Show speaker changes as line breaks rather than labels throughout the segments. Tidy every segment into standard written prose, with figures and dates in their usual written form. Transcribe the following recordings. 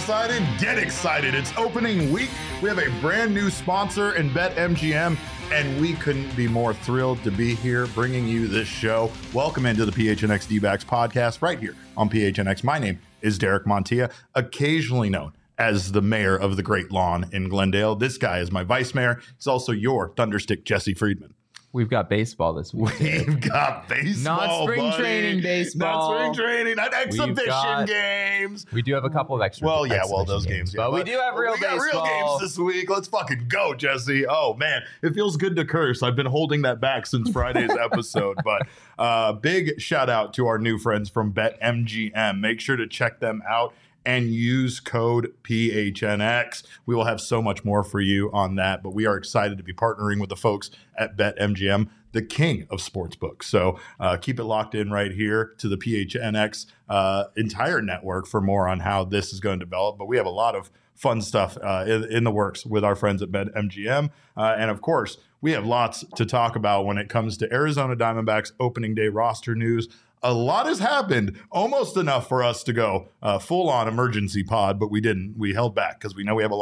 excited? Get excited. It's opening week. We have a brand new sponsor in BetMGM, and we couldn't be more thrilled to be here bringing you this show. Welcome into the PHNX D-backs podcast right here on PHNX. My name is Derek Montilla, occasionally known as the mayor of the Great Lawn in Glendale. This guy is my vice mayor. He's also your Thunderstick, Jesse Friedman.
We've got baseball this week.
We've got baseball,
not spring training baseball.
Not spring training, not exhibition games.
We do have a couple of extra.
Well, those games.
But we do have real baseball.
We got real games this week. Let's fucking go, Jesse. Oh, man. It feels good to curse. I've been holding that back since Friday's episode. But big shout out to our new friends from BetMGM. Make sure to check them out and use code PHNX. We will have so much more for you on that, but we are excited to be partnering with the folks at BetMGM, the king of sportsbooks. So keep it locked in right here to the PHNX entire network for more on how this is going to develop. But we have a lot of fun stuff in the works with our friends at BetMGM. And of course, we have lots to talk about when it comes to Arizona Diamondbacks opening day roster news. A lot has happened, almost enough for us to go full-on emergency pod, but we didn't. We held back because we know we have a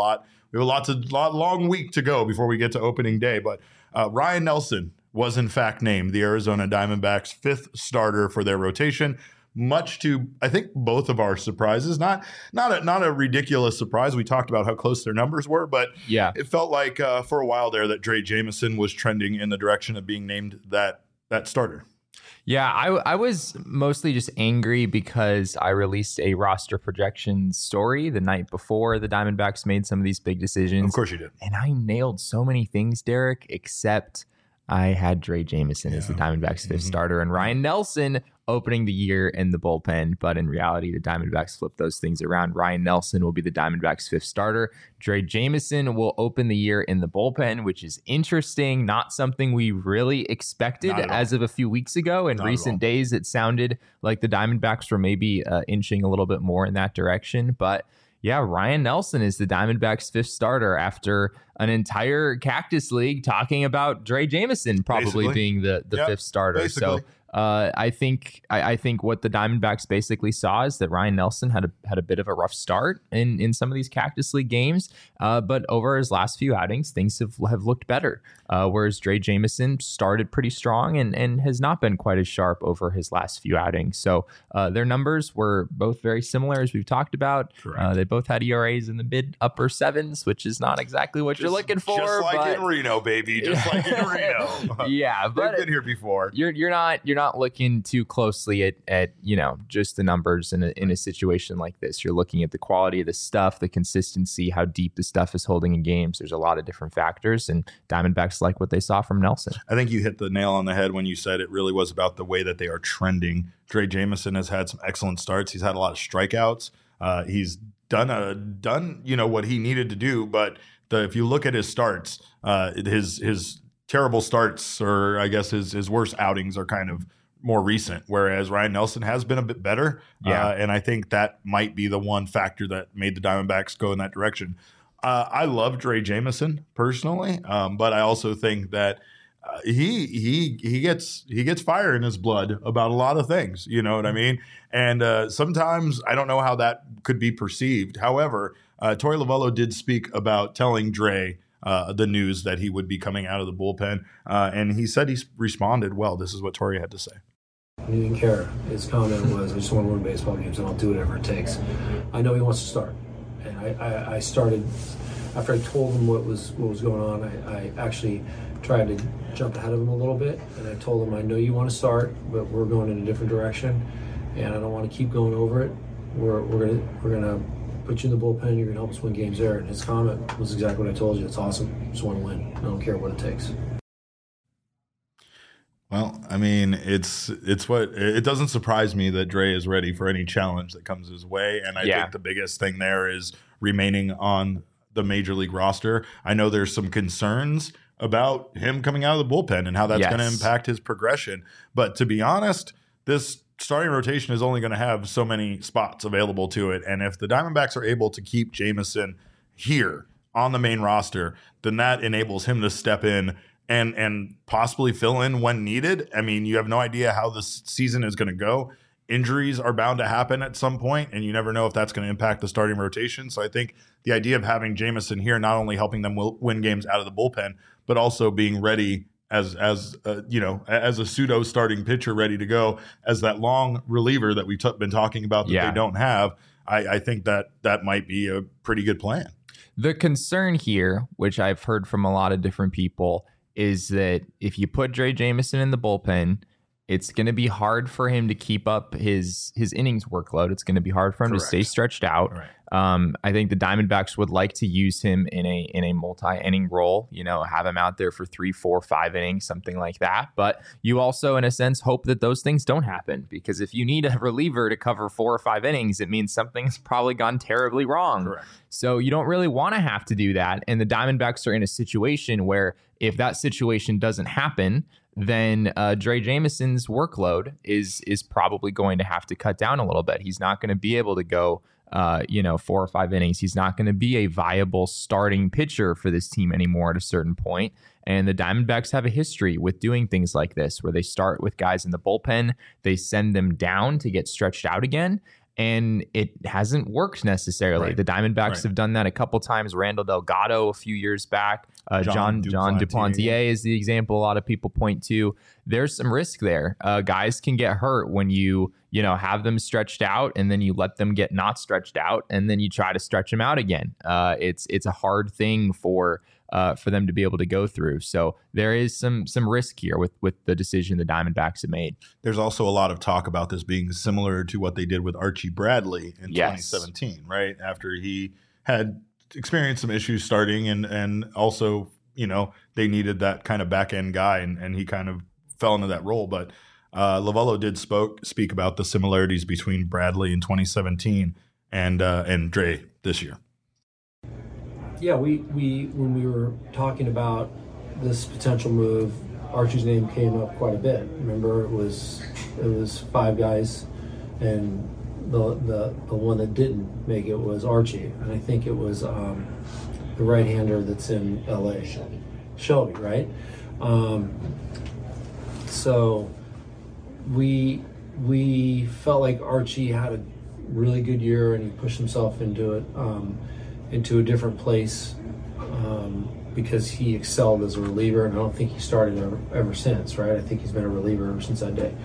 long week to go before we get to opening day. But Ryan Nelson was in fact named the Arizona Diamondbacks' fifth starter for their rotation, much to, I think, both of our surprises. Not a ridiculous surprise. We talked about how close their numbers were, but yeah, it felt like for a while there that Drey Jameson was trending in the direction of being named that starter.
Yeah, I was mostly just angry because I released a roster projection story the night before the Diamondbacks made some of these big decisions.
Of course you did.
And I nailed so many things, Derek, except I had Drey Jameson as the Diamondbacks' fifth starter and Ryan Nelson opening the year in the bullpen. But in reality, the Diamondbacks flipped those things around. Ryan Nelson will be the Diamondbacks' fifth starter. Drey Jameson will open the year in the bullpen, which is interesting. Not something we really expected as of a few weeks ago. In recent days, it sounded like the Diamondbacks were maybe inching a little bit more in that direction. But yeah, Ryan Nelson is the Diamondbacks' fifth starter after an entire Cactus League talking about Drey Jameson probably being the fifth starter. Basically. So I think what the Diamondbacks basically saw is that Ryan Nelson had a bit of a rough start in some of these Cactus League games, but over his last few outings, things have looked better. Whereas Drey Jameson started pretty strong and has not been quite as sharp over his last few outings. So their numbers were both very similar, as we've talked about. They both had ERAs in the mid upper sevens, which is not exact what you're looking for.
Just like in Reno, baby. Just like in Reno.
Yeah, but
they've been here before.
You're not looking too closely at just the numbers in a situation like this. You're looking at the quality of the stuff, the consistency, how deep the stuff is holding in games. There's a lot of different factors, and Diamondbacks like what they saw from Nelson.
I think you hit the nail on the head when you said it really was about the way that they are trending. Drey Jameson has had some excellent starts. He's had a lot of strikeouts. He's done what he needed to do, but if you look at his starts, his terrible starts, or I guess his worst outings, are kind of more recent, whereas Ryan Nelson has been a bit better. And I think that might be the one factor that made the Diamondbacks go in that direction. I love Drey Jameson personally, but I also think that he gets fire in his blood about a lot of things. You know what I mean? And sometimes I don't know how that could be perceived. However, Torey Lovullo did speak about telling Drey the news that he would be coming out of the bullpen, and he said he responded well. This is what Torey had to say.
He didn't care. His comment was, I just want to win baseball games and I'll do whatever it takes. I know he wants to start. And I started, after I told him what was going on, I actually tried to jump ahead of him a little bit. And I told him, I know you want to start, but we're going in a different direction. And I don't want to keep going over it. We're gonna put you in the bullpen. You're going to help us win games there. And his comment was exactly what I told you. It's awesome. I just want to win. I don't care what it takes.
Well, I mean, it doesn't surprise me that Drey is ready for any challenge that comes his way. And I think the biggest thing there is remaining on the major league roster. I know there's some concerns about him coming out of the bullpen and how that's going to impact his progression. But to be honest, this starting rotation is only going to have so many spots available to it. And if the Diamondbacks are able to keep Jameson here on the main roster, then that enables him to step in and possibly fill in when needed. I mean, you have no idea how this season is going to go injuries are bound to happen at some point, and you never know if that's going to impact the starting rotation. So I think the idea of having Jameson here, not only helping them win games out of the bullpen, but also being ready as a pseudo starting pitcher, ready to go as that long reliever that we've been talking about that they don't have. I think that might be a pretty good plan.
The concern here, which I've heard from a lot of different people, is that if you put Drey Jameson in the bullpen, it's going to be hard for him to keep up his innings workload. It's going to be hard for him to stay stretched out.
Right.
I think the Diamondbacks would like to use him in a multi-inning role, have him out there for 3, 4, 5 innings, something like that. But you also, in a sense, hope that those things don't happen, because if you need a reliever to cover 4 or 5 innings, it means something's probably gone terribly wrong.
Correct.
So you don't really want to have to do that. And the Diamondbacks are in a situation where if that situation doesn't happen, then Drey Jameson's workload is probably going to have to cut down a little bit. He's not going to be able to go 4 or 5 innings. He's not going to be a viable starting pitcher for this team anymore at a certain point. And the Diamondbacks have a history with doing things like this, where they start with guys in the bullpen, they send them down to get stretched out again, and it hasn't worked necessarily.
Right.
The Diamondbacks have done that a couple times. Randall Delgado a few years back. John Duplantier is the example a lot of people point to. There's some risk there. Guys can get hurt when you have them stretched out, and then you let them get not stretched out, and then you try to stretch them out again. It's a hard thing for them to be able to go through. So there is some risk here with the decision the Diamondbacks have made.
There's also a lot of talk about this being similar to what they did with Archie Bradley in 2017, right? After he had experienced some issues starting, and also, they needed that kind of back end guy, and he kind of fell into that role. But Lovullo did speak about the similarities between Bradley in 2017 and Drey this year.
Yeah, we when we were talking about this potential move, Archie's name came up quite a bit. Remember, it was 5 guys, and the one that didn't make it was Archie, and I think it was the right-hander that's in LA, Shelby, right? So we felt like Archie had a really good year, and he pushed himself into it. Into a different place because he excelled as a reliever, and I don't think he started ever since, right? I think he's been a reliever ever since that day.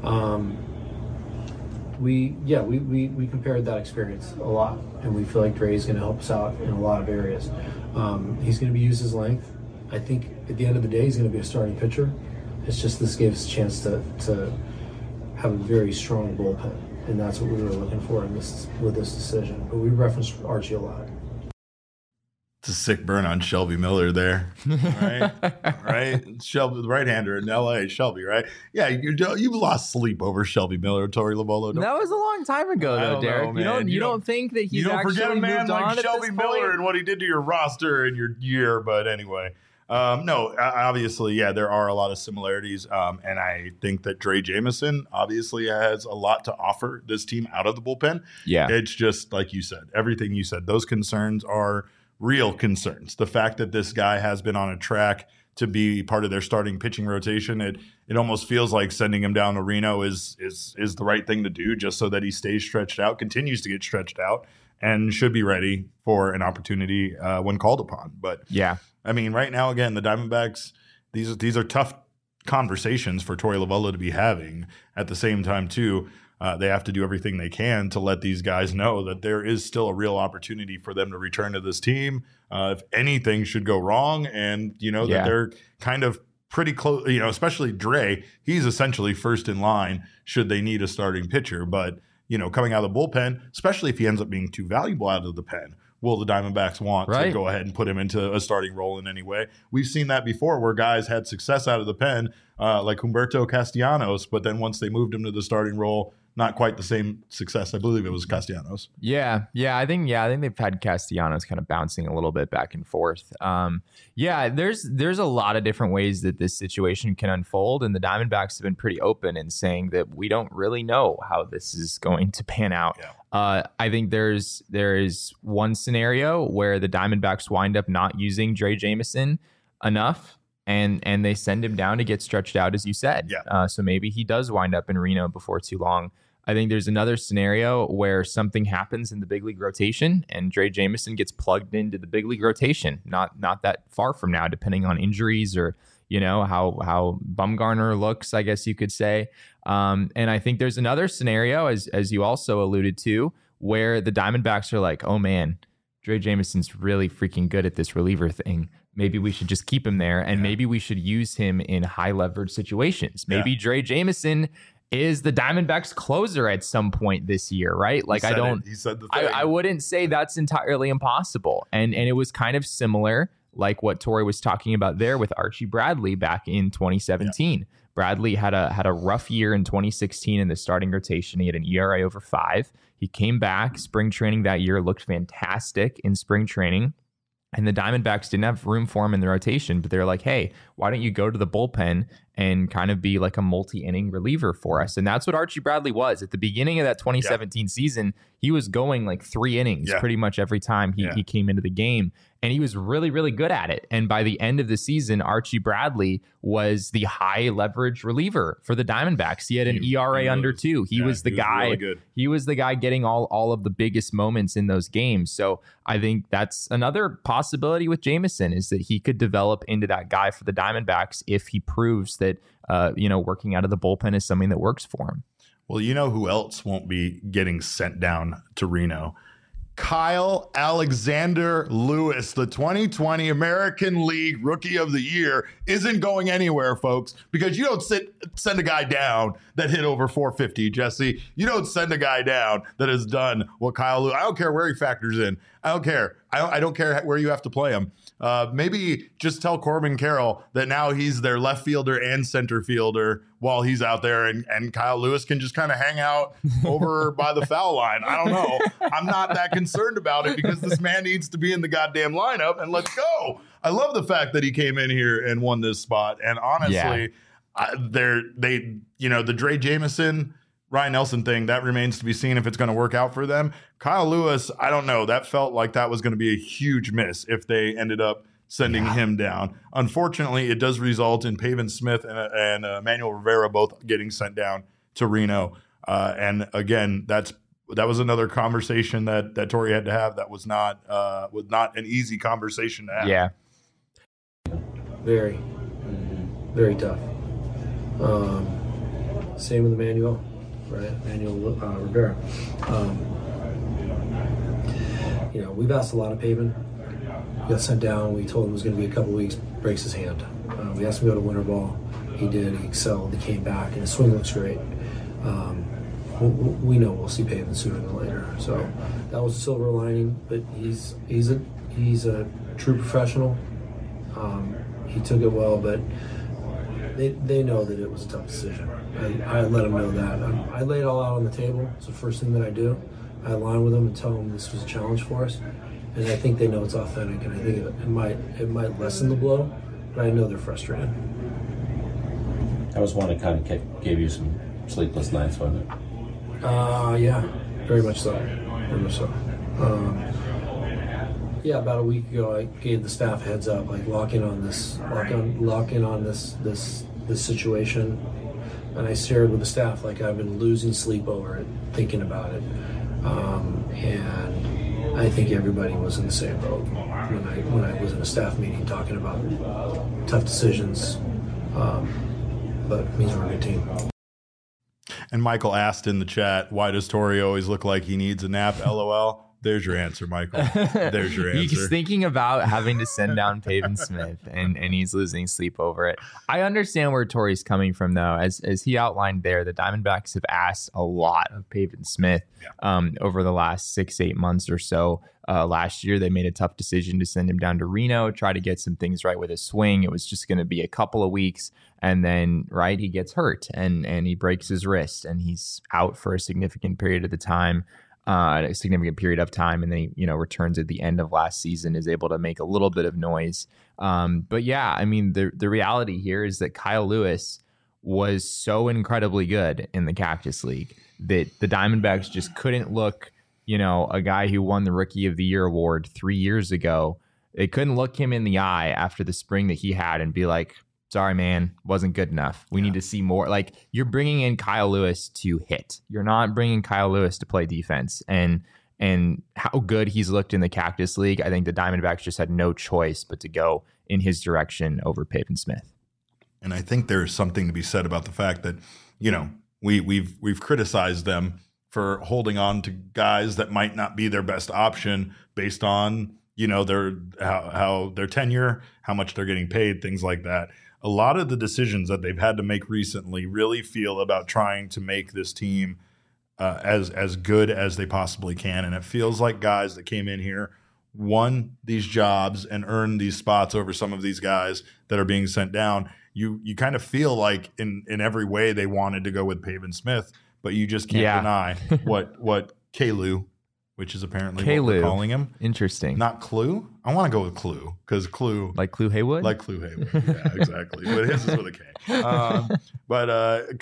We compared that experience a lot, and we feel like Drey's going to help us out in a lot of areas. He's going to be used his length. I think at the end of the day, he's going to be a starting pitcher. It's just this gave us a chance to have a very strong bullpen, and that's what we were looking for with this decision. But we referenced Archie a lot.
It's a sick burn on Shelby Miller there, right? Shelby, the right-hander in L.A., Shelby, right? Yeah, you've lost sleep over Shelby Miller, Torey Lovullo.
That was a long time ago, though, Derek. You don't think that he's
you don't
actually
forget a man
moved on
like
at
Shelby
this
Miller
point?
and what he did to your roster and your year. But anyway, no, obviously, yeah, there are a lot of similarities, and I think that Drey Jameson obviously has a lot to offer this team out of the bullpen.
Yeah,
it's just like you said, everything you said. Those concerns are real concerns. The fact that this guy has been on a track to be part of their starting pitching rotation, it almost feels like sending him down to Reno is the right thing to do, just so that he stays stretched out, continues to get stretched out, and should be ready for an opportunity when called upon. But
yeah,
I mean, right now, again, the Diamondbacks, these are tough conversations for Torey Lovullo to be having. At the same time, too, they have to do everything they can to let these guys know that there is still a real opportunity for them to return to this team. If anything should go wrong, and that they're kind of pretty close, especially Drey, he's essentially first in line should they need a starting pitcher. But, coming out of the bullpen, especially if he ends up being too valuable out of the pen, will the Diamondbacks want to go ahead and put him into a starting role in any way? We've seen that before where guys had success out of the pen, like Humberto Castellanos, but then once they moved him to the starting role, not quite the same success. I believe it was Castellanos.
Yeah. I think they've had Castellanos kind of bouncing a little bit back and forth. There's a lot of different ways that this situation can unfold, and the Diamondbacks have been pretty open in saying that we don't really know how this is going to pan out. Yeah. I think there is one scenario where the Diamondbacks wind up not using Drey Jameson enough, and they send him down to get stretched out, as you said.
Yeah.
So maybe he does wind up in Reno before too long. I think there's another scenario where something happens in the big league rotation and Drey Jameson gets plugged into the big league rotation, not that far from now, depending on injuries or, how Bumgarner looks, I guess you could say. And I think there's another scenario, as you also alluded to, where the Diamondbacks are like, oh man, Drey Jameson's really freaking good at this reliever thing. Maybe we should just keep him there, and maybe we should use him in high leverage situations. Maybe Drey Jameson is the Diamondbacks closer at some point this year, right? Like
He said the thing.
I wouldn't say that's entirely impossible. And it was kind of similar, like what Tori was talking about there with Archie Bradley back in 2017. Yeah. Bradley had a rough year in 2016 in the starting rotation. He had an ERA over 5. He came back spring training that year, looked fantastic in spring training. And the Diamondbacks didn't have room for him in the rotation, but they're like, hey, why don't you go to the bullpen and kind of be like a multi-inning reliever for us? And that's what Archie Bradley was. At the beginning of that 2017 season, he was going like 3 innings pretty much every time he came into the game. And he was really, really good at it. And by the end of the season, Archie Bradley was the high leverage reliever for the Diamondbacks. He had an ERA under 2. He was the guy. Really good. He was the guy getting all of the biggest moments in those games. So I think that's another possibility with Jameson, is that he could develop into that guy for the Diamondbacks if he proves that working out of the bullpen is something that works for him.
Well, you know who else won't be getting sent down to Reno? Kyle Alexander Lewis, the 2020 American League Rookie of the Year, isn't going anywhere, folks, because you don't send a guy down that hit over 450, Jesse. You don't send a guy down that has done what Kyle Lewis. I don't care where he factors in. I don't care. I don't care where you have to play him. Maybe just tell Corbin Carroll that now he's their left fielder and center fielder while he's out there, and Kyle Lewis can just kind of hang out over by the foul line. I don't know. I'm not that concerned about it because this man needs to be in the goddamn lineup, and let's go. I love the fact that he came in here and won this spot. And honestly, the Drey Jameson, Ryan Nelson thing, that remains to be seen if it's going to work out for them. Kyle Lewis, I don't know. That felt like that was going to be a huge miss if they ended up sending him down. Unfortunately, it does result in Pavin Smith and Manuel Rivera both getting sent down to Reno. And again, that was another conversation that Tori had to have. That was not an easy conversation to have.
Yeah.
Very, very tough. Same with Manuel, right? Manuel Rivera. We've asked a lot of Pavin. He got sent down. We told him it was going to be a couple weeks, breaks his hand. We asked him to go to winter ball. He did. He excelled. He came back, and his swing looks great. We know we'll see Pavin sooner than later. So that was a silver lining. But he's a true professional. He took it well, but they know that it was a tough decision. I let them know that. I lay it all out on the table. It's the first thing that I do. I align with them and tell them this was a challenge for us. And I think they know it's authentic, and I think it might lessen the blow, but I know they're frustrated.
That was one that kind of gave you some sleepless nights, wasn't it?
Yeah, very much so. Very much so. About a week ago, I gave the staff a heads up, like lock in on this situation, and I shared with the staff like I've been losing sleep over it, thinking about it, and I think everybody was in the same boat when I was in a staff meeting talking about tough decisions, but it means we're a good team.
And Michael asked in the chat, why does Tori always look like he needs a nap? LOL. There's your answer, Michael. There's your answer.
He's thinking about having to send down Pavin Smith, and he's losing sleep over it. I understand where Tori's coming from, though. As he outlined there, the Diamondbacks have asked a lot of Pavin Smith over the last 6-8 months or so. Last year, they made a tough decision to send him down to Reno, try to get some things right with his swing. It was just going to be a couple of weeks, and then he gets hurt and he breaks his wrist, and he's out for a significant period of time, and then he returns at the end of last season, is able to make a little bit of noise. But yeah, I mean, the reality here is that Kyle Lewis was so incredibly good in the Cactus League that the Diamondbacks just couldn't look, a guy who won the Rookie of the Year award 3 years ago. They couldn't look him in the eye after the spring that he had and be like, sorry, man, wasn't good enough. We need to see more. Like, you're bringing in Kyle Lewis to hit. You're not bringing Kyle Lewis to play defense. And how good he's looked in the Cactus League, I think the Diamondbacks just had no choice but to go in his direction over Pavin Smith.
And I think there's something to be said about the fact that, you know, we've criticized them for holding on to guys that might not be their best option based on, you know, how their tenure, how much they're getting paid, things like that. A lot of the decisions that they've had to make recently really feel about trying to make this team as good as they possibly can. And it feels like guys that came in here won these jobs and earned these spots over some of these guys that are being sent down. You kind of feel like in every way they wanted to go with Pavin Smith, but you just can't deny what Kalu, which is apparently what we're calling him.
Interesting.
Not Clue. I want to go with Clue because Clue.
Like Clue Haywood?
Like Clue Haywood. Yeah, exactly. But his is with a K. But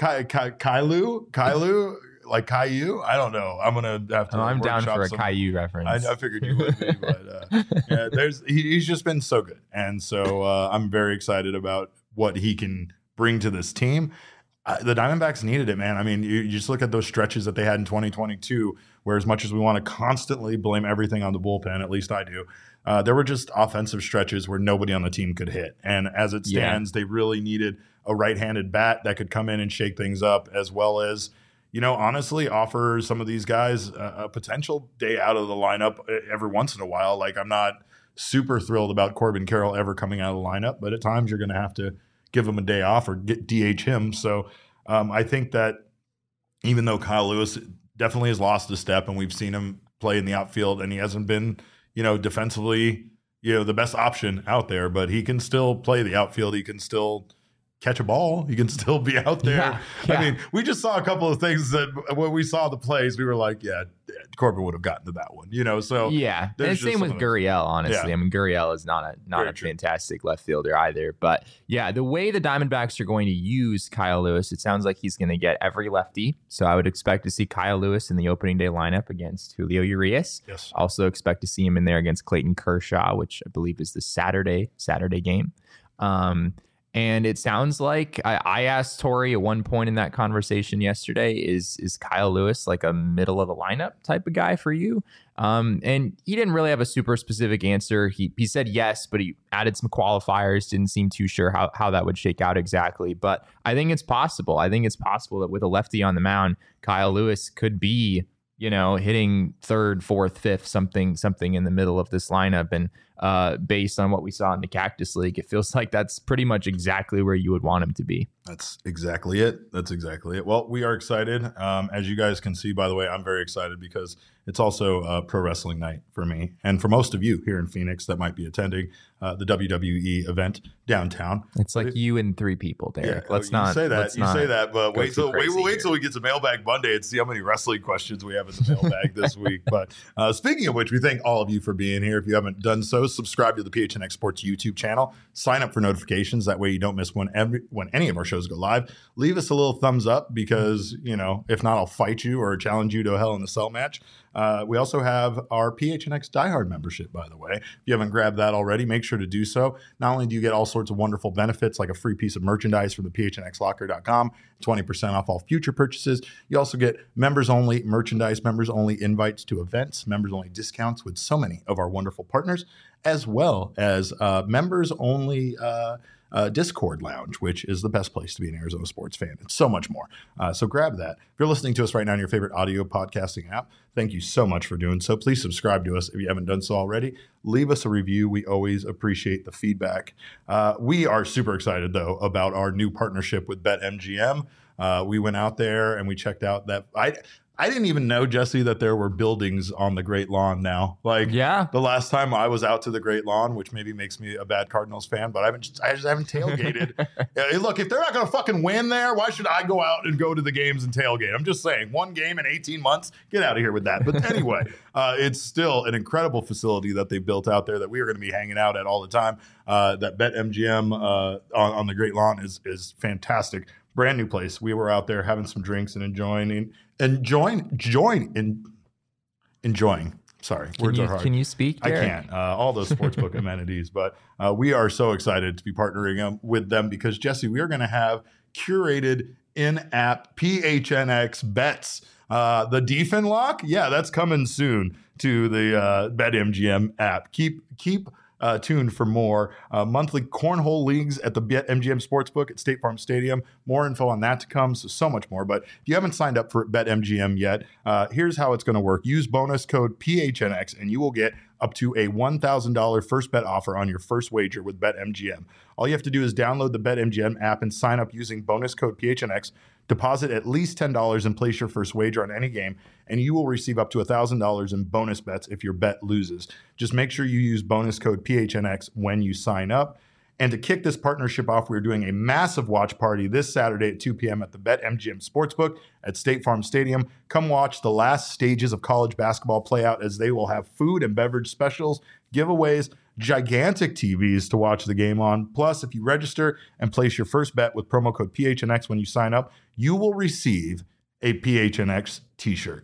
Kalu, like Caillou? I don't know. I'm going to have to
I'm down for a Caillou reference.
I figured you would be. But he's just been so good. And so I'm very excited about what he can bring to this team. The Diamondbacks needed it, man. I mean, you just look at those stretches that they had in 2022, where as much as we want to constantly blame everything on the bullpen, at least I do, there were just offensive stretches where nobody on the team could hit. And as it stands, they really needed a right-handed bat that could come in and shake things up, as well as, you know, honestly offer some of these guys a potential day out of the lineup every once in a while. Like, I'm not super thrilled about Corbin Carroll ever coming out of the lineup, but at times you're going to have to give him a day off or DH him. So I think that even though Kyle Lewis definitely has lost a step and we've seen him play in the outfield and he hasn't been, you know, defensively, you know, the best option out there, but he can still play the outfield. He can still catch a ball. He can still be out there. Yeah. I mean, we just saw a couple of things that when we saw the plays, we were like, yeah, Corbin would have gotten to that one, you know? So
yeah. And same with Gurriel, honestly. Yeah. I mean, Gurriel is not a fantastic left fielder either, but yeah, the way the Diamondbacks are going to use Kyle Lewis, it sounds like he's going to get every lefty. So I would expect to see Kyle Lewis in the opening day lineup against Julio Urias.
Yes.
Also expect to see him in there against Clayton Kershaw, which I believe is the Saturday game. And it sounds like I asked Tori at one point in that conversation yesterday, is Kyle Lewis like a middle of the lineup type of guy for you? And he didn't really have a super specific answer. He said yes, but he added some qualifiers, didn't seem too sure how that would shake out exactly. But I think it's possible. I think it's possible that with a lefty on the mound, Kyle Lewis could be, you know, hitting third, fourth, fifth, something in the middle of this lineup. And based on what we saw in the Cactus League, it feels like that's pretty much exactly where you would want him to be.
That's exactly it. Well, we are excited. As you guys can see, by the way, I'm very excited because it's also pro wrestling night for me. And for most of you here in Phoenix that might be attending the WWE event downtown.
It's like you and three people, Derek.
Yeah, let's not say that, but wait till we get to Mailbag Monday and see how many wrestling questions we have in the mailbag this week. But speaking of which, we thank all of you for being here. If you haven't done so, subscribe to the PHNX Sports YouTube channel. Sign up for notifications. That way you don't miss when any of our shows go live. Leave us a little thumbs up because, you know, if not, I'll fight you or challenge you to a Hell in a Cell match. We also have our PHNX Diehard membership, by the way. If you haven't grabbed that already, make sure to do so. Not only do you get all sorts of wonderful benefits like a free piece of merchandise from the phnxlocker.com, 20% off all future purchases, you also get members-only merchandise, members-only invites to events, members-only discounts with so many of our wonderful partners, as well as members-only Discord Lounge, which is the best place to be an Arizona sports fan, and so much more. So grab that. If you're listening to us right now on your favorite audio podcasting app, thank you so much for doing so. Please subscribe to us if you haven't done so already. Leave us a review. We always appreciate the feedback. We are super excited, though, about our new partnership with BetMGM. We went out there and we checked out that I didn't even know, Jesse, that there were buildings on the Great Lawn now. The last time I was out to the Great Lawn, which maybe makes me a bad Cardinals fan, but I just haven't tailgated. Hey, look, if they're not going to fucking win there, why should I go out and go to the games and tailgate? I'm just saying, one game in 18 months, get out of here with that. But anyway, it's still an incredible facility that they built out there that we are going to be hanging out at all the time. That BetMGM on the Great Lawn is fantastic. Brand new place. We were out there having some drinks and enjoying Sorry, words are hard.
Can you speak,
I
Derek?
can't. All those sportsbook amenities, but we are so excited to be partnering with them because, Jesse, we are going to have curated in-app PHNX bets. The DFIN lock, yeah, that's coming soon to the BetMGM app. Keep tuned for more monthly cornhole leagues at the BetMGM Sportsbook at State Farm Stadium. More info on that to come, so much more. But if you haven't signed up for BetMGM yet, here's how it's going to work. Use bonus code PHNX and you will get up to a $1,000 first bet offer on your first wager with BetMGM. All you have to do is download the BetMGM app and sign up using bonus code PHNX. Deposit at least $10 and place your first wager on any game, and you will receive up to $1,000 in bonus bets if your bet loses. Just make sure you use bonus code PHNX when you sign up. And to kick this partnership off, we're doing a massive watch party this Saturday at 2 p.m. at the BetMGM Sportsbook at State Farm Stadium. Come watch the last stages of college basketball play out as they will have food and beverage specials, giveaways, gigantic TVs to watch the game on. Plus, if you register and place your first bet with promo code PHNX when you sign up, you will receive a PHNX t-shirt.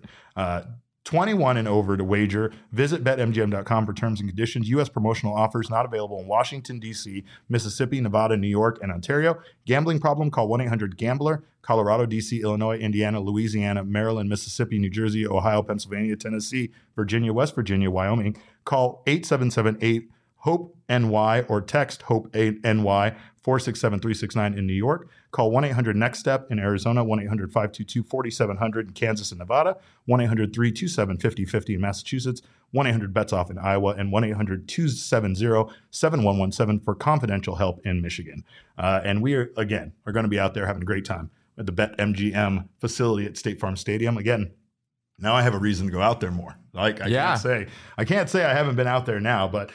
21 and over to wager. Visit BetMGM.com for terms and conditions. U.S. promotional offers not available in Washington, D.C., Mississippi, Nevada, New York, and Ontario. Gambling problem? Call 1-800-GAMBLER. Colorado, D.C., Illinois, Indiana, Louisiana, Maryland, Mississippi, New Jersey, Ohio, Pennsylvania, Tennessee, Virginia, West Virginia, Wyoming. Call 877-8-HOPE-NY or text HOPE-NY 467-369 in New York. Call 1-800-NEXT-STEP in Arizona, 1-800-522-4700 in Kansas and Nevada, 1-800-327-5050 in Massachusetts, 1-800-BETS-OFF in Iowa, and 1-800-270-7117 for confidential help in Michigan. And we are going to be out there having a great time at the BetMGM facility at State Farm Stadium. Again, now I have a reason to go out there more. Like I can't say I haven't been out there now, but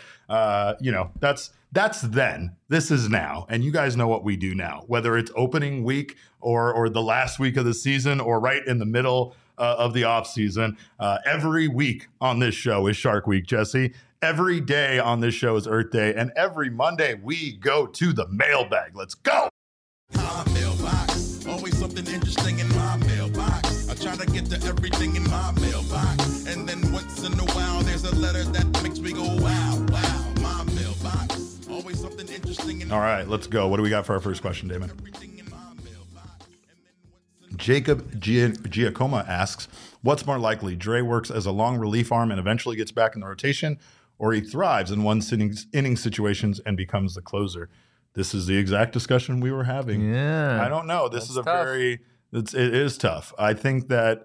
that's then. This is now. And you guys know what we do now, whether it's opening week or the last week of the season or right in the middle of the off season. Every week on this show is Shark Week, Jesse. Every day on this show is Earth Day. And every Monday we go to the mailbag. Let's go.
My mailbox, always something interesting in my mailbox. I try to get to everything in my mailbox. And then once in a while, there's a letter that makes me go, wow, wow. My mailbox, always something interesting in
All right, let's go. What do we got for our first question, Damon?
everything in my mailbox.
Jacob Giacomo asks, what's more likely? Dre works as a long relief arm and eventually gets back in the rotation, or he thrives in one-inning situations and becomes the closer? This is the exact discussion we were having.
Yeah.
I don't know. This is a
tough.
it is tough. I think that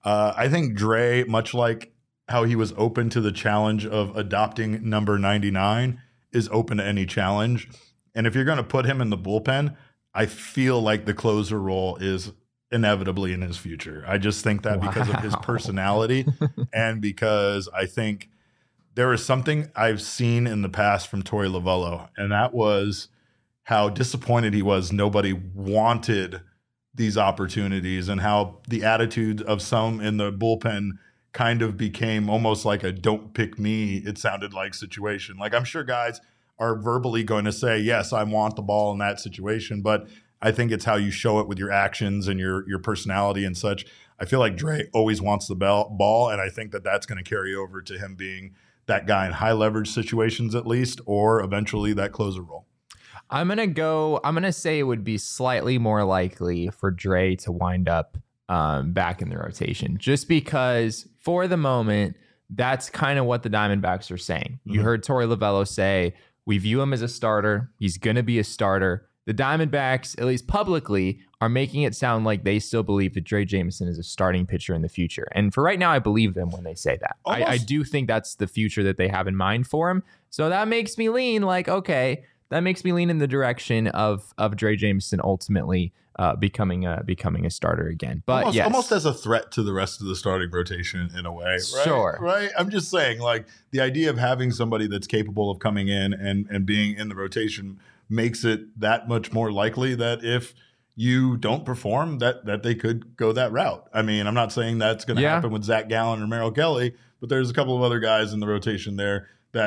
Dre, much like how he was open to the challenge of adopting number 99, is open to any challenge. And if you're going to put him in the bullpen, I feel like the closer role is inevitably in his future. I just think that because of his personality and because I think there is something I've seen in the past from Torey Lovullo, and that was how disappointed he was nobody wanted these opportunities and how the attitude of some in the bullpen kind of became almost like a don't pick me, it sounded like situation. Like I'm sure guys are verbally going to say, yes, I want the ball in that situation, but I think it's how you show it with your actions and your personality and such. I feel like Dre always wants the ball, and I think that that's going to carry over to him being that guy in high leverage situations at least, or eventually that closer role.
I'm going to say it would be slightly more likely for Dre to wind up back in the rotation, just because for the moment, that's kind of what the Diamondbacks are saying. You heard Torey Lovullo say, we view him as a starter. He's going to be a starter. The Diamondbacks, at least publicly, are making it sound like they still believe that Dre Jameson is a starting pitcher in the future. And for right now, I believe them when they say that. I do think that's the future that they have in mind for him. So that makes me lean like, okay, that makes me lean in the direction of Dre Jameson ultimately becoming a starter again. But
almost as a threat to the rest of the starting rotation in a way, right?
Sure.
Right? I'm just saying, like, the idea of having somebody that's capable of coming in and being in the rotation makes it that much more likely that if you don't perform, that they could go that route. I mean, I'm not saying that's going to happen with Zach Gallen or Merrill Kelly, but there's a couple of other guys in the rotation there that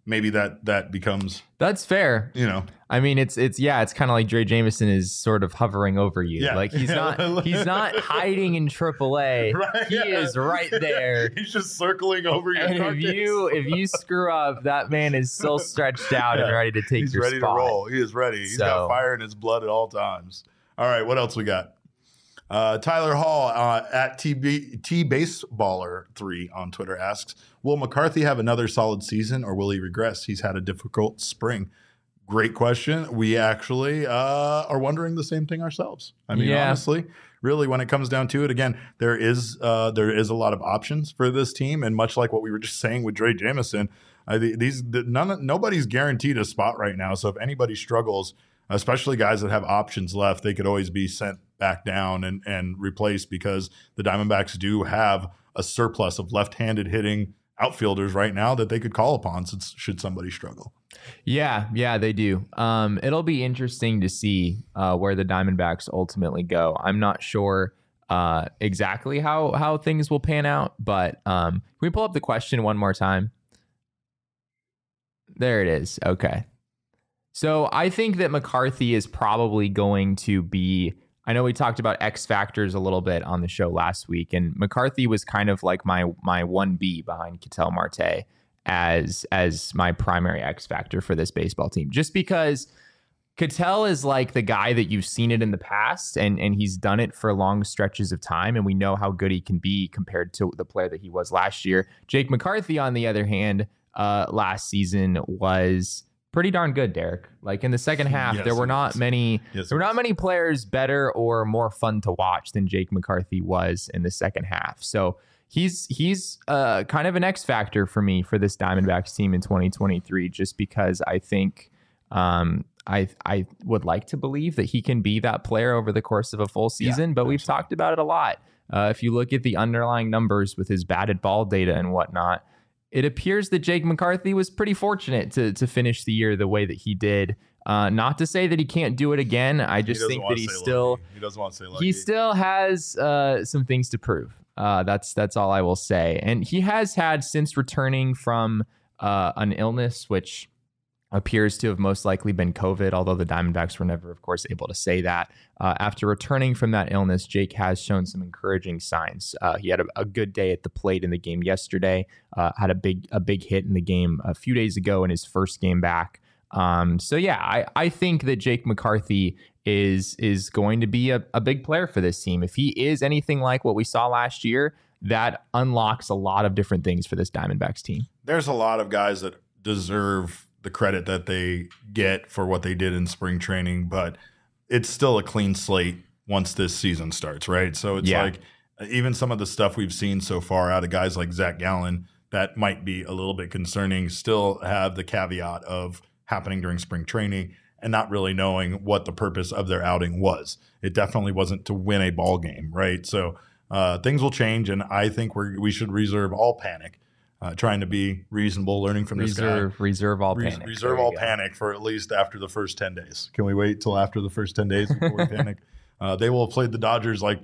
maybe that becomes,
That's fair.
you know.
I mean, it's kind of like Dre Jameson is sort of hovering over you.
Yeah.
Like he's not hiding in AAA.
Right,
He is right there.
He's just circling over your
And
carcass.
if you screw up, that man is still stretched out and ready to take
He's
your
ready
spot.
to roll. He is ready. He's got fire in his blood at all times. All right, what else we got? Tyler Hall at T Baseballer 3 on Twitter asks, will McCarthy have another solid season or will he regress? He's had a difficult spring. Great question. We actually are wondering the same thing ourselves. I mean, honestly, really, when it comes down to it, again, there is a lot of options for this team, and much like what we were just saying with Dre Jameson, nobody's guaranteed a spot right now. So if anybody struggles, especially guys that have options left, they could always be sent back down and replaced, because the Diamondbacks do have a surplus of left-handed hitting outfielders right now that they could call upon should somebody struggle.
Yeah, they do. It'll be interesting to see where the Diamondbacks ultimately go. I'm not sure exactly how things will pan out, but can we pull up the question one more time? There it is. Okay. So I think that McCarthy is probably going to be, I know we talked about X factors a little bit on the show last week, and McCarthy was kind of like my 1B behind Ketel Marte as my primary X factor for this baseball team, just because Ketel is like the guy that you've seen it in the past, and he's done it for long stretches of time, and we know how good he can be compared to the player that he was last year. Jake McCarthy, on the other hand, last season was pretty darn good, Derek. Like in the second half, there were not many players better or more fun to watch than Jake McCarthy was in the second half. So he's kind of an X factor for me for this Diamondbacks team in 2023, just because I think I would like to believe that he can be that player over the course of a full season, but we've talked about it a lot. If you look at the underlying numbers with his batted ball data and whatnot, it appears that Jake McCarthy was pretty fortunate to finish the year the way that he did. Not to say that he can't do it again. I just think that he
doesn't want to say lucky.
He still has some things to prove. That's all I will say. And he has had, since returning from an illness, which appears to have most likely been COVID, although the Diamondbacks were never, of course, able to say that. After returning from that illness, Jake has shown some encouraging signs. He had a good day at the plate in the game yesterday, had a big hit in the game a few days ago in his first game back. So yeah, I think that Jake McCarthy is going to be a big player for this team. If he is anything like what we saw last year, that unlocks a lot of different things for this Diamondbacks team.
There's a lot of guys that deserve the credit that they get for what they did in spring training, but it's still a clean slate once this season starts, right? So it's like even some of the stuff we've seen so far out of guys like Zach Gallen that might be a little bit concerning still have the caveat of happening during spring training and not really knowing what the purpose of their outing was. It definitely wasn't to win a ball game, right? So things will change, and I think we should reserve all panic. Trying to be reasonable, learning from this guy.
Reserve all panic.
Reserve all panic for at least after the first 10 days. Can we wait till after the first 10 days before we panic? They will have played the Dodgers like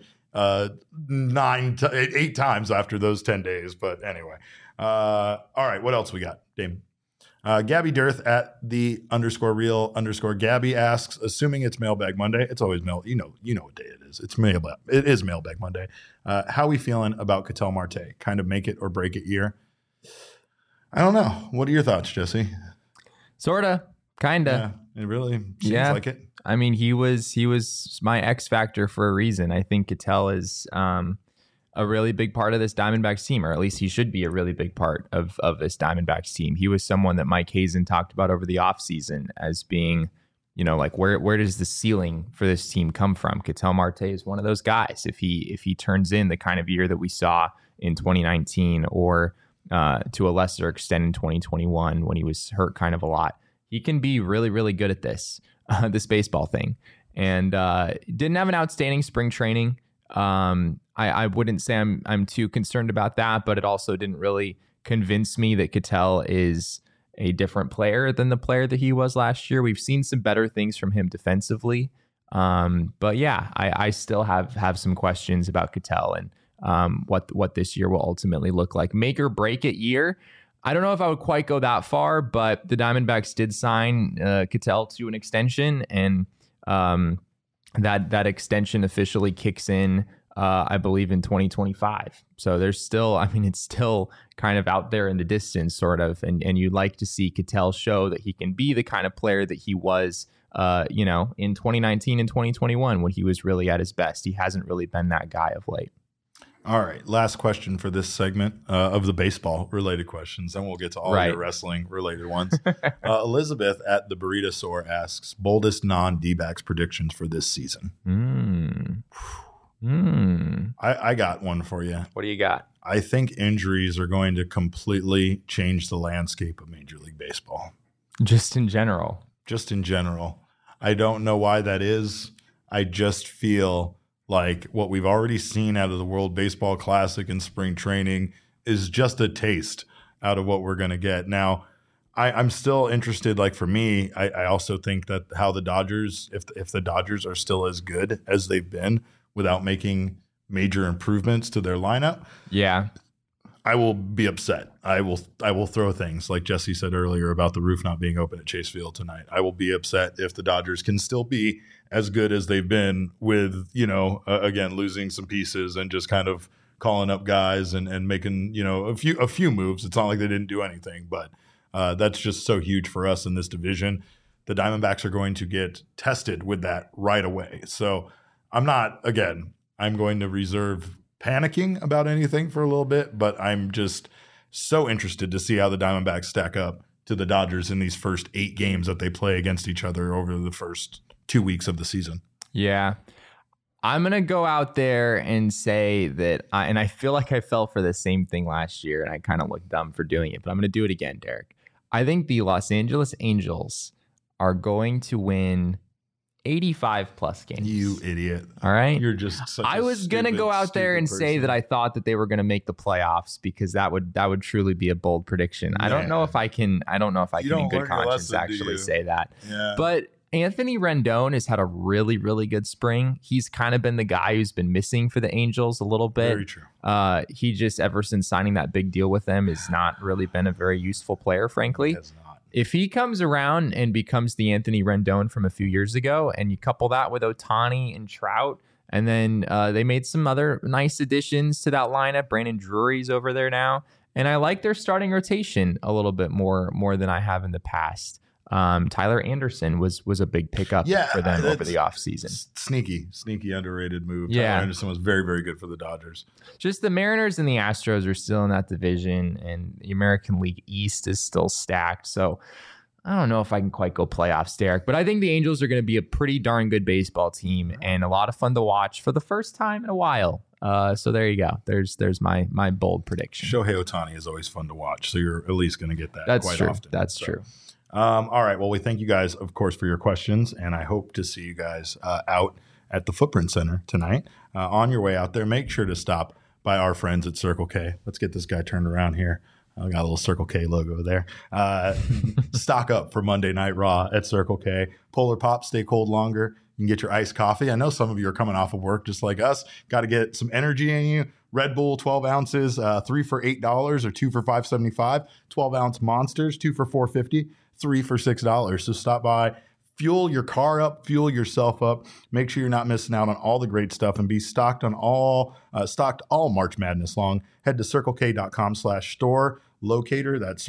8 times after those 10 days. But anyway. All right, what else we got, Damon? Gabby Dirth at the _real_Gabby asks, assuming it's Mailbag Monday, it's always you know what day it is. It is Mailbag Monday. How we feeling about Ketel Marte? Kind of make it or break it year? I don't know. What are your thoughts, Jesse?
Sorta, kinda.
Yeah, it really seems like it.
I mean, he was my X factor for a reason. I think Ketel is a really big part of this Diamondbacks team, or at least he should be a really big part of this Diamondbacks team. He was someone that Mike Hazen talked about over the offseason as being, like where does the ceiling for this team come from? Ketel Marte is one of those guys. If he turns in the kind of year that we saw in 2019 or to a lesser extent in 2021 when he was hurt kind of a lot, he can be really, really good at this baseball thing. And didn't have an outstanding spring training. I wouldn't say I'm too concerned about that, but it also didn't really convince me that Ketel is a different player than the player that he was last year. We've seen some better things from him defensively. But yeah, I still have some questions about Ketel and what this year will ultimately look like. Make or break it year. I don't know if I would quite go that far, but the Diamondbacks did sign Ketel to an extension, and that extension officially kicks in, I believe, in 2025. So there's still, it's still kind of out there in the distance, sort of, and you'd like to see Ketel show that he can be the kind of player that he was, in 2019 and 2021 when he was really at his best. He hasn't really been that guy of late.
All right, last question for this segment of the baseball-related questions. Then we'll get to all your wrestling-related ones. Elizabeth at the Burrito Sore asks, boldest non-D-backs predictions for this season. I got one for you.
What do you got?
I think injuries are going to completely change the landscape of Major League Baseball.
Just in general.
I don't know why that is. I just feel like what we've already seen out of the World Baseball Classic and spring training is just a taste out of what we're going to get. Now, I'm still interested. Like for me, I also think that how the Dodgers, if the Dodgers are still as good as they've been without making major improvements to their lineup, I will be upset. I will throw things like Jesse said earlier about the roof not being open at Chase Field tonight. I will be upset if the Dodgers can still be as good as they've been with, again, losing some pieces and just kind of calling up guys and making, a few moves. It's not like they didn't do anything, but that's just so huge for us in this division. The Diamondbacks are going to get tested with that right away. So I'm going to reserve panicking about anything for a little bit, but I'm just so interested to see how the Diamondbacks stack up to the Dodgers in these first 8 games that they play against each other over the first 2 weeks of the season.
Yeah. I'm going to go out there and say that, I feel like I fell for the same thing last year, and I kind of looked dumb for doing it, but I'm going to do it again, Derek. I think the Los Angeles Angels are going to win 85 plus games.
You idiot.
All right.
You're just such
I was going to go out there and say that I thought that they were going to make the playoffs because that would truly be a bold prediction. Yeah. I don't know if I can in good conscience actually say that. Yeah. But Anthony Rendon has had a really, really good spring. He's kind of been the guy who's been missing for the Angels a little bit.
Very true.
He just, ever since signing that big deal with them, has not really been a very useful player, frankly.
He has not.
If he comes around and becomes the Anthony Rendon from a few years ago, and you couple that with Ohtani and Trout, and then they made some other nice additions to that lineup. Brandon Drury's over there now, and I like their starting rotation a little bit more than I have in the past. Tyler Anderson was a big pickup for them over the offseason.
Sneaky underrated move.
Yeah.
Tyler Anderson was very, very good for the Dodgers.
Just the Mariners and the Astros are still in that division, and the American League East is still stacked. So I don't know if I can quite go playoffs, Derek, but I think the Angels are going to be a pretty darn good baseball team and a lot of fun to watch for the first time in a while. So there you go. There's my bold prediction.
Shohei Ohtani is always fun to watch, so you're at least going to get that quite often.
That's true.
All right. Well, we thank you guys, of course, for your questions, and I hope to see you guys out at the Footprint Center tonight. On your way out there, make sure to stop by our friends at Circle K. Let's get this guy turned around here. I got a little Circle K logo there. Stock up for Monday Night Raw at Circle K. Polar Pop, stay cold longer. You can get your iced coffee. I know some of you are coming off of work just like us. Got to get some energy in you. Red Bull, 12 ounces, 3 for $8 or 2 for $5.75. 12-ounce Monsters, 2 for $4.50. 3 for $6. So stop by, fuel your car up, fuel yourself up. Make sure you're not missing out on all the great stuff and be stocked all March Madness long. Head to circlek.com/store locator. That's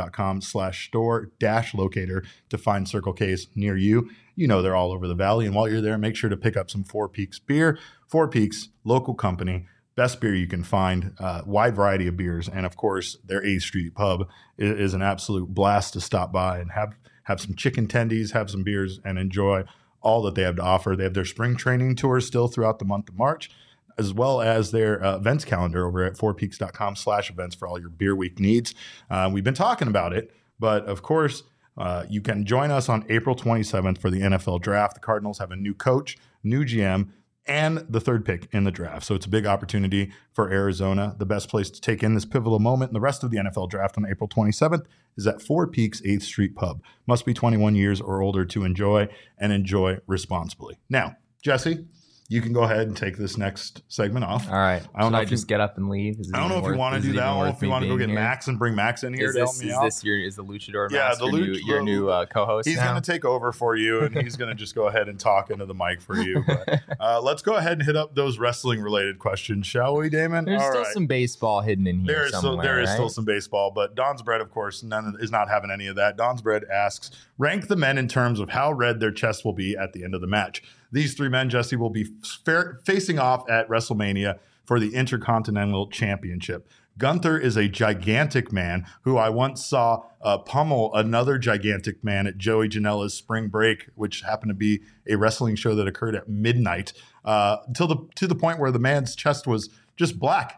circlek.com/store-locator to find Circle K's near you. You know they're all over the valley. And while you're there, make sure to pick up some Four Peaks beer. Four Peaks, local company. Best beer you can find, wide variety of beers. And, of course, their 8th Street Pub is an absolute blast to stop by and have some chicken tendies, have some beers, and enjoy all that they have to offer. They have their spring training tours still throughout the month of March, as well as their events calendar over at fourpeaks.com/events for all your beer week needs. We've been talking about it, but, of course, you can join us on April 27th for the NFL Draft. The Cardinals have a new coach, new GM, and the 3rd pick in the draft. So it's a big opportunity for Arizona. The best place to take in this pivotal moment and the rest of the NFL Draft on April 27th is at Four Peaks 8th Street Pub. Must be 21 years or older to enjoy, and enjoy responsibly. Now, Jesse, you can go ahead and take this next segment off.
All right.
I don't know
I
if
just get up and leave?
I don't know if you want to do that, or if you want to go get Max and bring Max in here to help me out.
Is the Luchador Max your new co-host?
He's going to take over for you, and he's going to just go ahead and talk into the mic for you. But, let's go ahead and hit up those wrestling-related questions, shall we, Damon?
There's still some baseball hidden in here.
There is still some baseball, but Don's Bread, of course, is not having any of that. Don's Bread asks, rank the men in terms of how red their chests will be at the end of the match. These three men, Jesse, will be facing off at WrestleMania for the Intercontinental Championship. Gunther is a gigantic man who I once saw pummel another gigantic man at Joey Janela's Spring Break, which happened to be a wrestling show that occurred at midnight, to the point where the man's chest was just black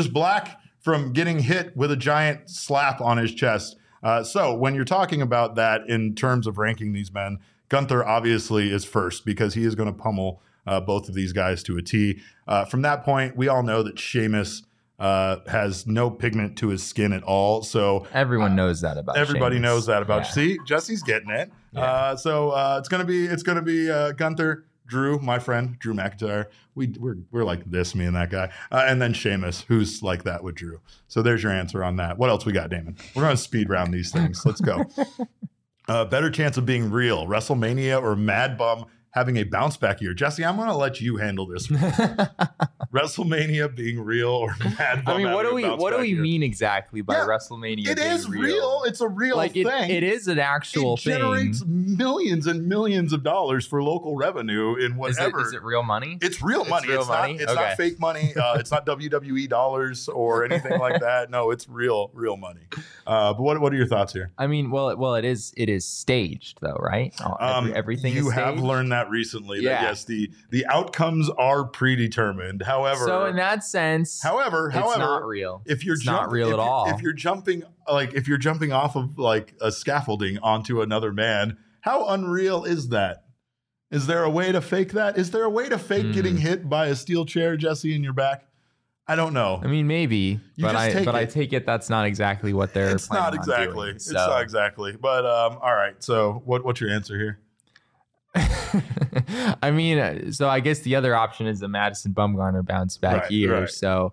from getting hit with a giant slap on his chest. So when you're talking about that in terms of ranking these men, Gunther obviously is first because he is going to pummel both of these guys to a T. From that point, we all know that Sheamus has no pigment to his skin at all. So
everyone knows that about
everybody
Sheamus.
Knows that about. Yeah. See, Jesse's getting it. Yeah. So it's gonna be Gunther, Drew, my friend Drew McIntyre. We're like this, me and that guy, and then Sheamus, who's like that with Drew. So there's your answer on that. What else we got, Damon? We're gonna speed round these things. Let's go. Better chance of being real, WrestleMania or Mad Bum having a bounce back year. Jesse, I'm going to let you handle this one. WrestleMania being real or Mad Bum.
I mean, what do we mean exactly by WrestleMania?
It is real. It's a real thing.
It is an actual thing.
It generates millions and millions of dollars for local revenue in whatever.
Is it real money?
It's real money. It's not fake money. It's not WWE dollars or anything like that. No, it's real money. But what are your thoughts here?
I mean, well, it is staged though, right? Everything
you
is staged.
have learned that recently. That yes, the outcomes are predetermined. However,
so in that sense,
however,
it's not real.
If you're
not real at all.
If you're jumping off of like a scaffolding onto another man, how unreal is that? Is there a way to fake that? Is there a way to fake getting hit by a steel chair, Jesse, in your back? I don't know.
I mean, maybe, I take it that's not exactly what they're.
It's not exactly.
Doing,
it's not exactly. But all right. So what's your answer here?
I mean, so I guess the other option is the Madison Bumgarner bounce back year. Right. So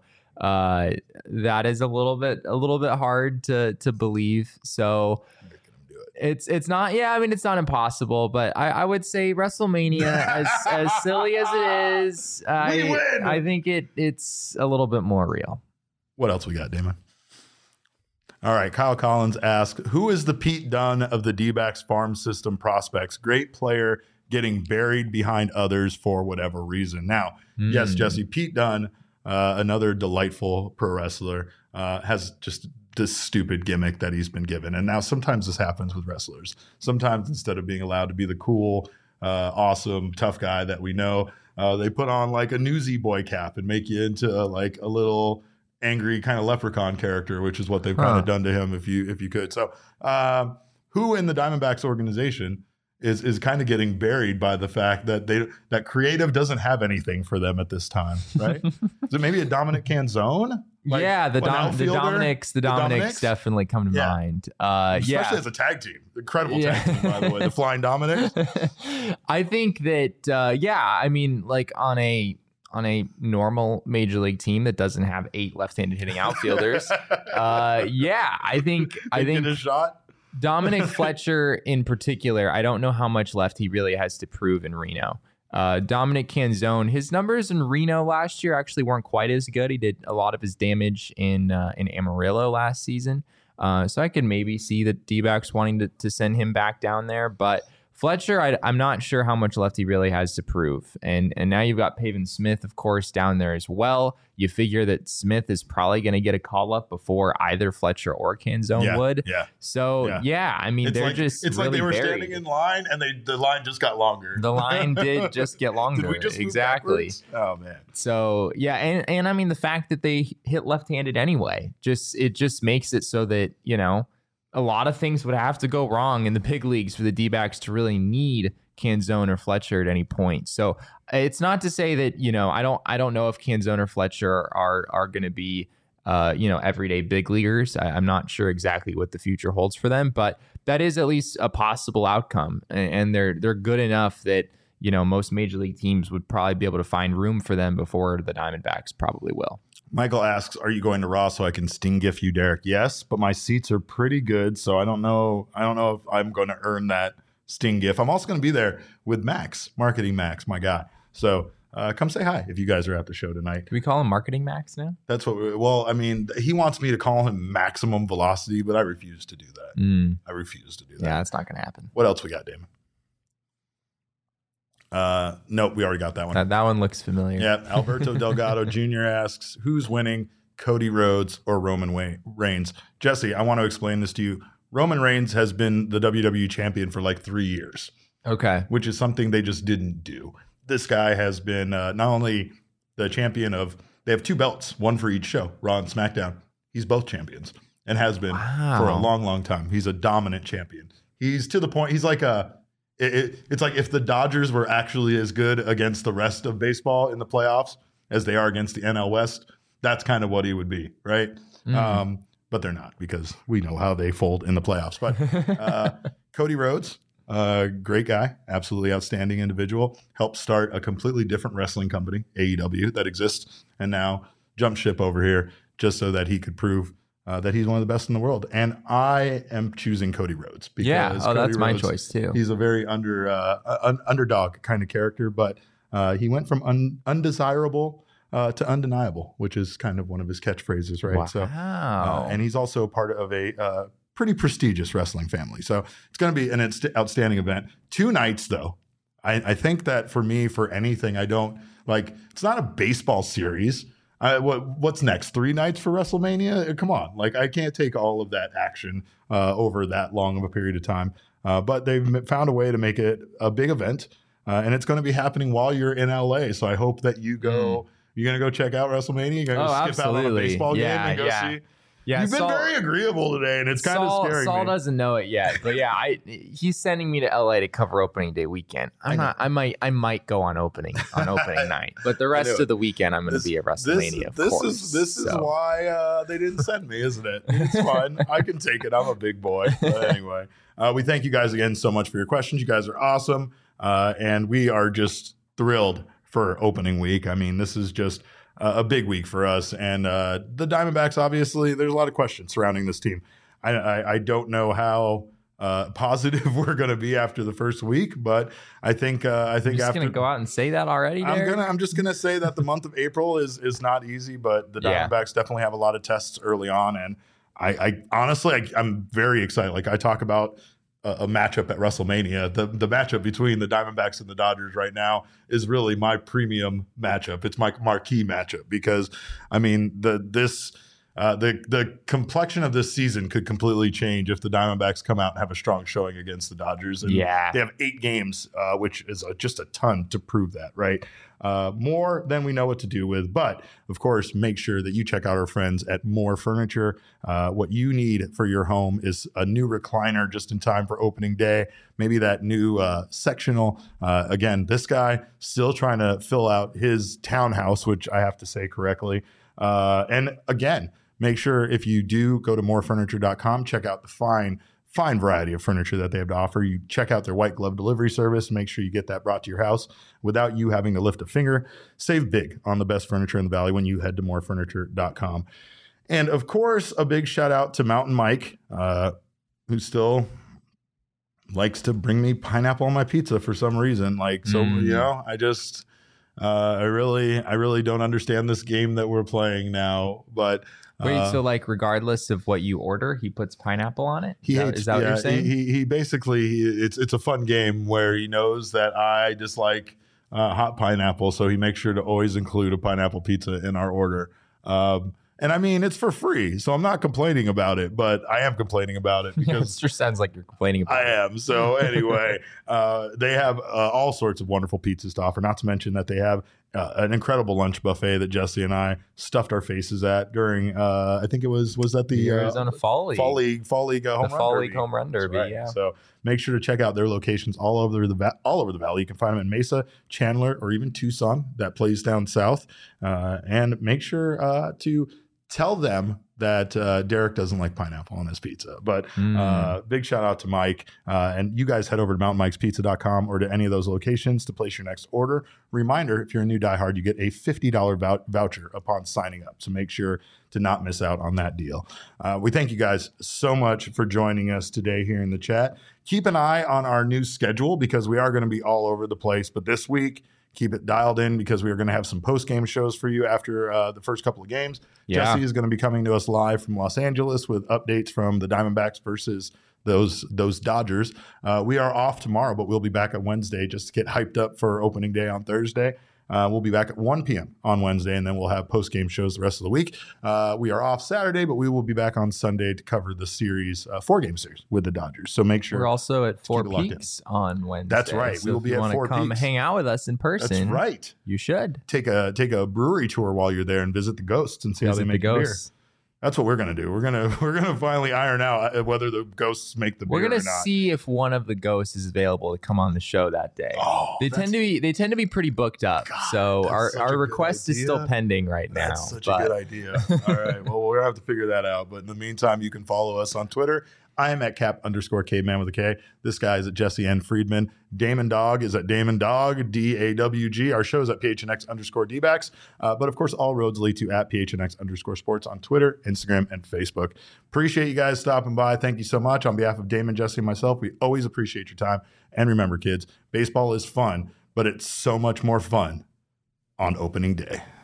that is a little bit hard to believe. So it's not. Yeah, I mean, it's not impossible, but I would say WrestleMania, as silly as it is, I think it's a little bit more real.
What else we got, Damon? All right, Kyle Collins asks, who is the Pete Dunne of the D-backs farm system prospects? Great player getting buried behind others for whatever reason. Now, yes, Jesse, Pete Dunne, another delightful pro wrestler, has just this stupid gimmick that he's been given. And now sometimes this happens with wrestlers. Sometimes instead of being allowed to be the cool, awesome, tough guy that we know, they put on like a Newsy Boy cap and make you into like a little angry kind of leprechaun character, which is what they've kind of done to him if you could. So who in the Diamondbacks organization is kind of getting buried by the fact that that creative doesn't have anything for them at this time, right? Is it maybe a Dominic Canzone? Like,
yeah, the Dominics definitely come to mind.
Especially as a tag team. Incredible tag team, by the way. The Flying Dominics.
I think that, I mean, like on a normal major league team that doesn't have 8 left-handed hitting outfielders, I think
a shot.
Dominic Fletcher in particular, I don't know how much left he really has to prove in Reno. Dominic Canzone, his numbers in Reno last year actually weren't quite as good. He did a lot of his damage in Amarillo last season. So I could maybe see the D-backs wanting to send him back down there. But Fletcher, I'm not sure how much left he really has to prove. And now you've got Pavin Smith, of course, down there as well. You figure that Smith is probably going to get a call up before either Fletcher or Canzone would. Yeah. So, I mean, it's
it's
really
like they were
buried.
standing in line and the line just got longer.
The line did just get longer.
Did we just
exactly.
Move backwards? Oh, man.
So, and I mean, the fact that they hit left-handed anyway, it just makes it so that, a lot of things would have to go wrong in the big leagues for the D-backs to really need Canzone or Fletcher at any point. So it's not to say that, I don't know if Canzone or Fletcher are going to be, everyday big leaguers. I'm not sure exactly what the future holds for them, but that is at least a possible outcome. And they're good enough that, most major league teams would probably be able to find room for them before the Diamondbacks probably will.
Michael asks, are you going to Raw so I can sting gif you, Derek? Yes, but my seats are pretty good, so I don't know if I'm going to earn that sting gif. I'm also going to be there with Max, Marketing Max, my guy. So come say hi if you guys are at the show tonight.
Do we call him Marketing Max now?
That's what. He wants me to call him Maximum Velocity, but I refuse to do that. I refuse to do that.
Yeah, that's not going to happen.
What else we got, Damon? Nope, we already got that one.
That one looks familiar.
Yeah, Alberto Delgado Jr. asks, who's winning, Cody Rhodes or Roman Reigns? Jesse, I want to explain this to you. Roman Reigns has been the WWE champion for like 3 years.
Okay.
Which is something they just didn't do. This guy has been not only the champion of, they have 2 belts, one for each show, Raw and SmackDown. He's both champions and has been for a long, long time. He's a dominant champion. He's to the point, he's like it's like if the Dodgers were actually as good against the rest of baseball in the playoffs as they are against the NL West, that's kind of what he would be, right? But they're not, because we know how they fold in the playoffs. But Cody Rhodes, great guy, absolutely outstanding individual, helped start a completely different wrestling company, AEW, that exists, and now jumped ship over here just so that he could prove that he's one of the best in the world. And I am choosing Cody Rhodes. Because Cody
that's my
Rhodes,
choice too.
He's a very underdog kind of character, but he went from undesirable to undeniable, which is kind of one of his catchphrases, right?
Wow.
So, and he's also part of a pretty prestigious wrestling family. So it's going to be an outstanding event. 2 nights, though. I think that for me, for anything, I don't like. It's not a baseball series. What's next? 3 nights for WrestleMania? Come on. Like, I can't take all of that action over that long of a period of time. But they've found a way to make it a big event. And it's going to be happening while you're in LA. So I hope that you go. You're going to go check out WrestleMania? You're going to skip out on a baseball game and go see?
Yeah,
you've been very agreeable today, and it's kind of scary.
Saul doesn't know it yet, but yeah, he's sending me to LA to cover opening day weekend. I might go on opening night, but the rest of the weekend I'm going to be at WrestleMania.
This is why they didn't send me, isn't it? It's fine. I can take it. I'm a big boy. But anyway, we thank you guys again so much for your questions. You guys are awesome, and we are just thrilled for opening week. I mean, this is just a big week for us, and the Diamondbacks, obviously there's a lot of questions surrounding this team. I don't know how positive we're going to be after the first week, but I think
You're just
after
going to go out and say that already, Derek?
I'm just going to say that the month of April is not easy, but the Diamondbacks definitely have a lot of tests early on, and I honestly I'm very excited. Like, I talk about a matchup at WrestleMania. The matchup between the Diamondbacks and the Dodgers right now is really my premium matchup. It's my marquee matchup, because I mean the complexion of this season could completely change if the Diamondbacks come out and have a strong showing against the Dodgers. And they have 8 games, which is just a ton to prove that, right? More than we know what to do with. But, of course, make sure that you check out our friends at More Furniture. What you need for your home is a new recliner just in time for opening day. Maybe that new sectional. Again, this guy still trying to fill out his townhouse, which I have to say correctly. And, again, make sure if you do go to morefurniture.com, check out the fine variety of furniture that they have to offer. You check out their white glove delivery service. Make sure you get that brought to your house without you having to lift a finger. Save big on the best furniture in the Valley when you head to morefurniture.com. And, of course, a big shout out to Mountain Mike, who still likes to bring me pineapple on my pizza for some reason. Like, so, I just... I really don't understand this game that we're playing now, but
wait, so like regardless of what you order, he puts pineapple on it? Is that what you're saying?
He basically, it's a fun game where he knows that I dislike hot pineapple, so he makes sure to always include a pineapple pizza in our order. And I mean, it's for free, so I'm not complaining about it, but I am complaining about it because
it just sounds like you're complaining about it.
I am. So anyway, they have all sorts of wonderful pizzas to offer, not to mention that they have an incredible lunch buffet that Jesse and I stuffed our faces at during, I think it was that the
Arizona Fall League
Home Run Derby. Right. Yeah. So make sure to check out their locations all over the Valley. You can find them in Mesa, Chandler, or even Tucson. That plays down south. And make sure to tell them that Derek doesn't like pineapple on his pizza. But big shout out to Mike. And you guys head over to mountainmikespizza.com or to any of those locations to place your next order. Reminder, if you're a new diehard, you get a $50 voucher upon signing up. So make sure to not miss out on that deal. We thank you guys so much for joining us today here in the chat. Keep an eye on our new schedule because we are going to be all over the place. But this week, keep it dialed in because we are going to have some post-game shows for you after the first couple of games.
Yeah.
Jesse is going to be coming to us live from Los Angeles with updates from the Diamondbacks versus those Dodgers. We are off tomorrow, but we'll be back on Wednesday just to get hyped up for opening day on Thursday. We'll be back at 1 p.m. on Wednesday, and then we'll have post-game shows the rest of the week. We are off Saturday, but we will be back on Sunday to cover the series, 4-game series with the Dodgers. So make sure.
We're also at Four
keep it locked
Peaks on Wednesday.
That's right.
So
We will
if
be
you
at
wanna
Four
come
Peaks.
hang out with us in person.
That's right.
You should.
Take a brewery tour while you're there and visit the Ghosts and see how they
Visit
make
the
the beer.
ghosts.
That's what we're gonna do. We're gonna finally iron out whether the Ghosts make the beer
We're gonna
or not.
see if one of the ghosts is available to come on the show that day.
Oh,
They tend to be pretty booked up.
God,
so
that's such a
our
good
request is still
idea.
pending right now.
That's such a
but
good idea. All right. Well, we're gonna have to figure that out. But in the meantime, you can follow us on Twitter. I am at Cap_caveman with a K. This guy is at Jesse N. Friedman. Damon Dog is at Damon Dog, DAWG. Our show is at PHNX_DBacks. But of course, all roads lead to at PHNX_sports on Twitter, Instagram, and Facebook. Appreciate you guys stopping by. Thank you so much. On behalf of Damon, Jesse, and myself, we always appreciate your time. And remember, kids, baseball is fun, but it's so much more fun on opening day.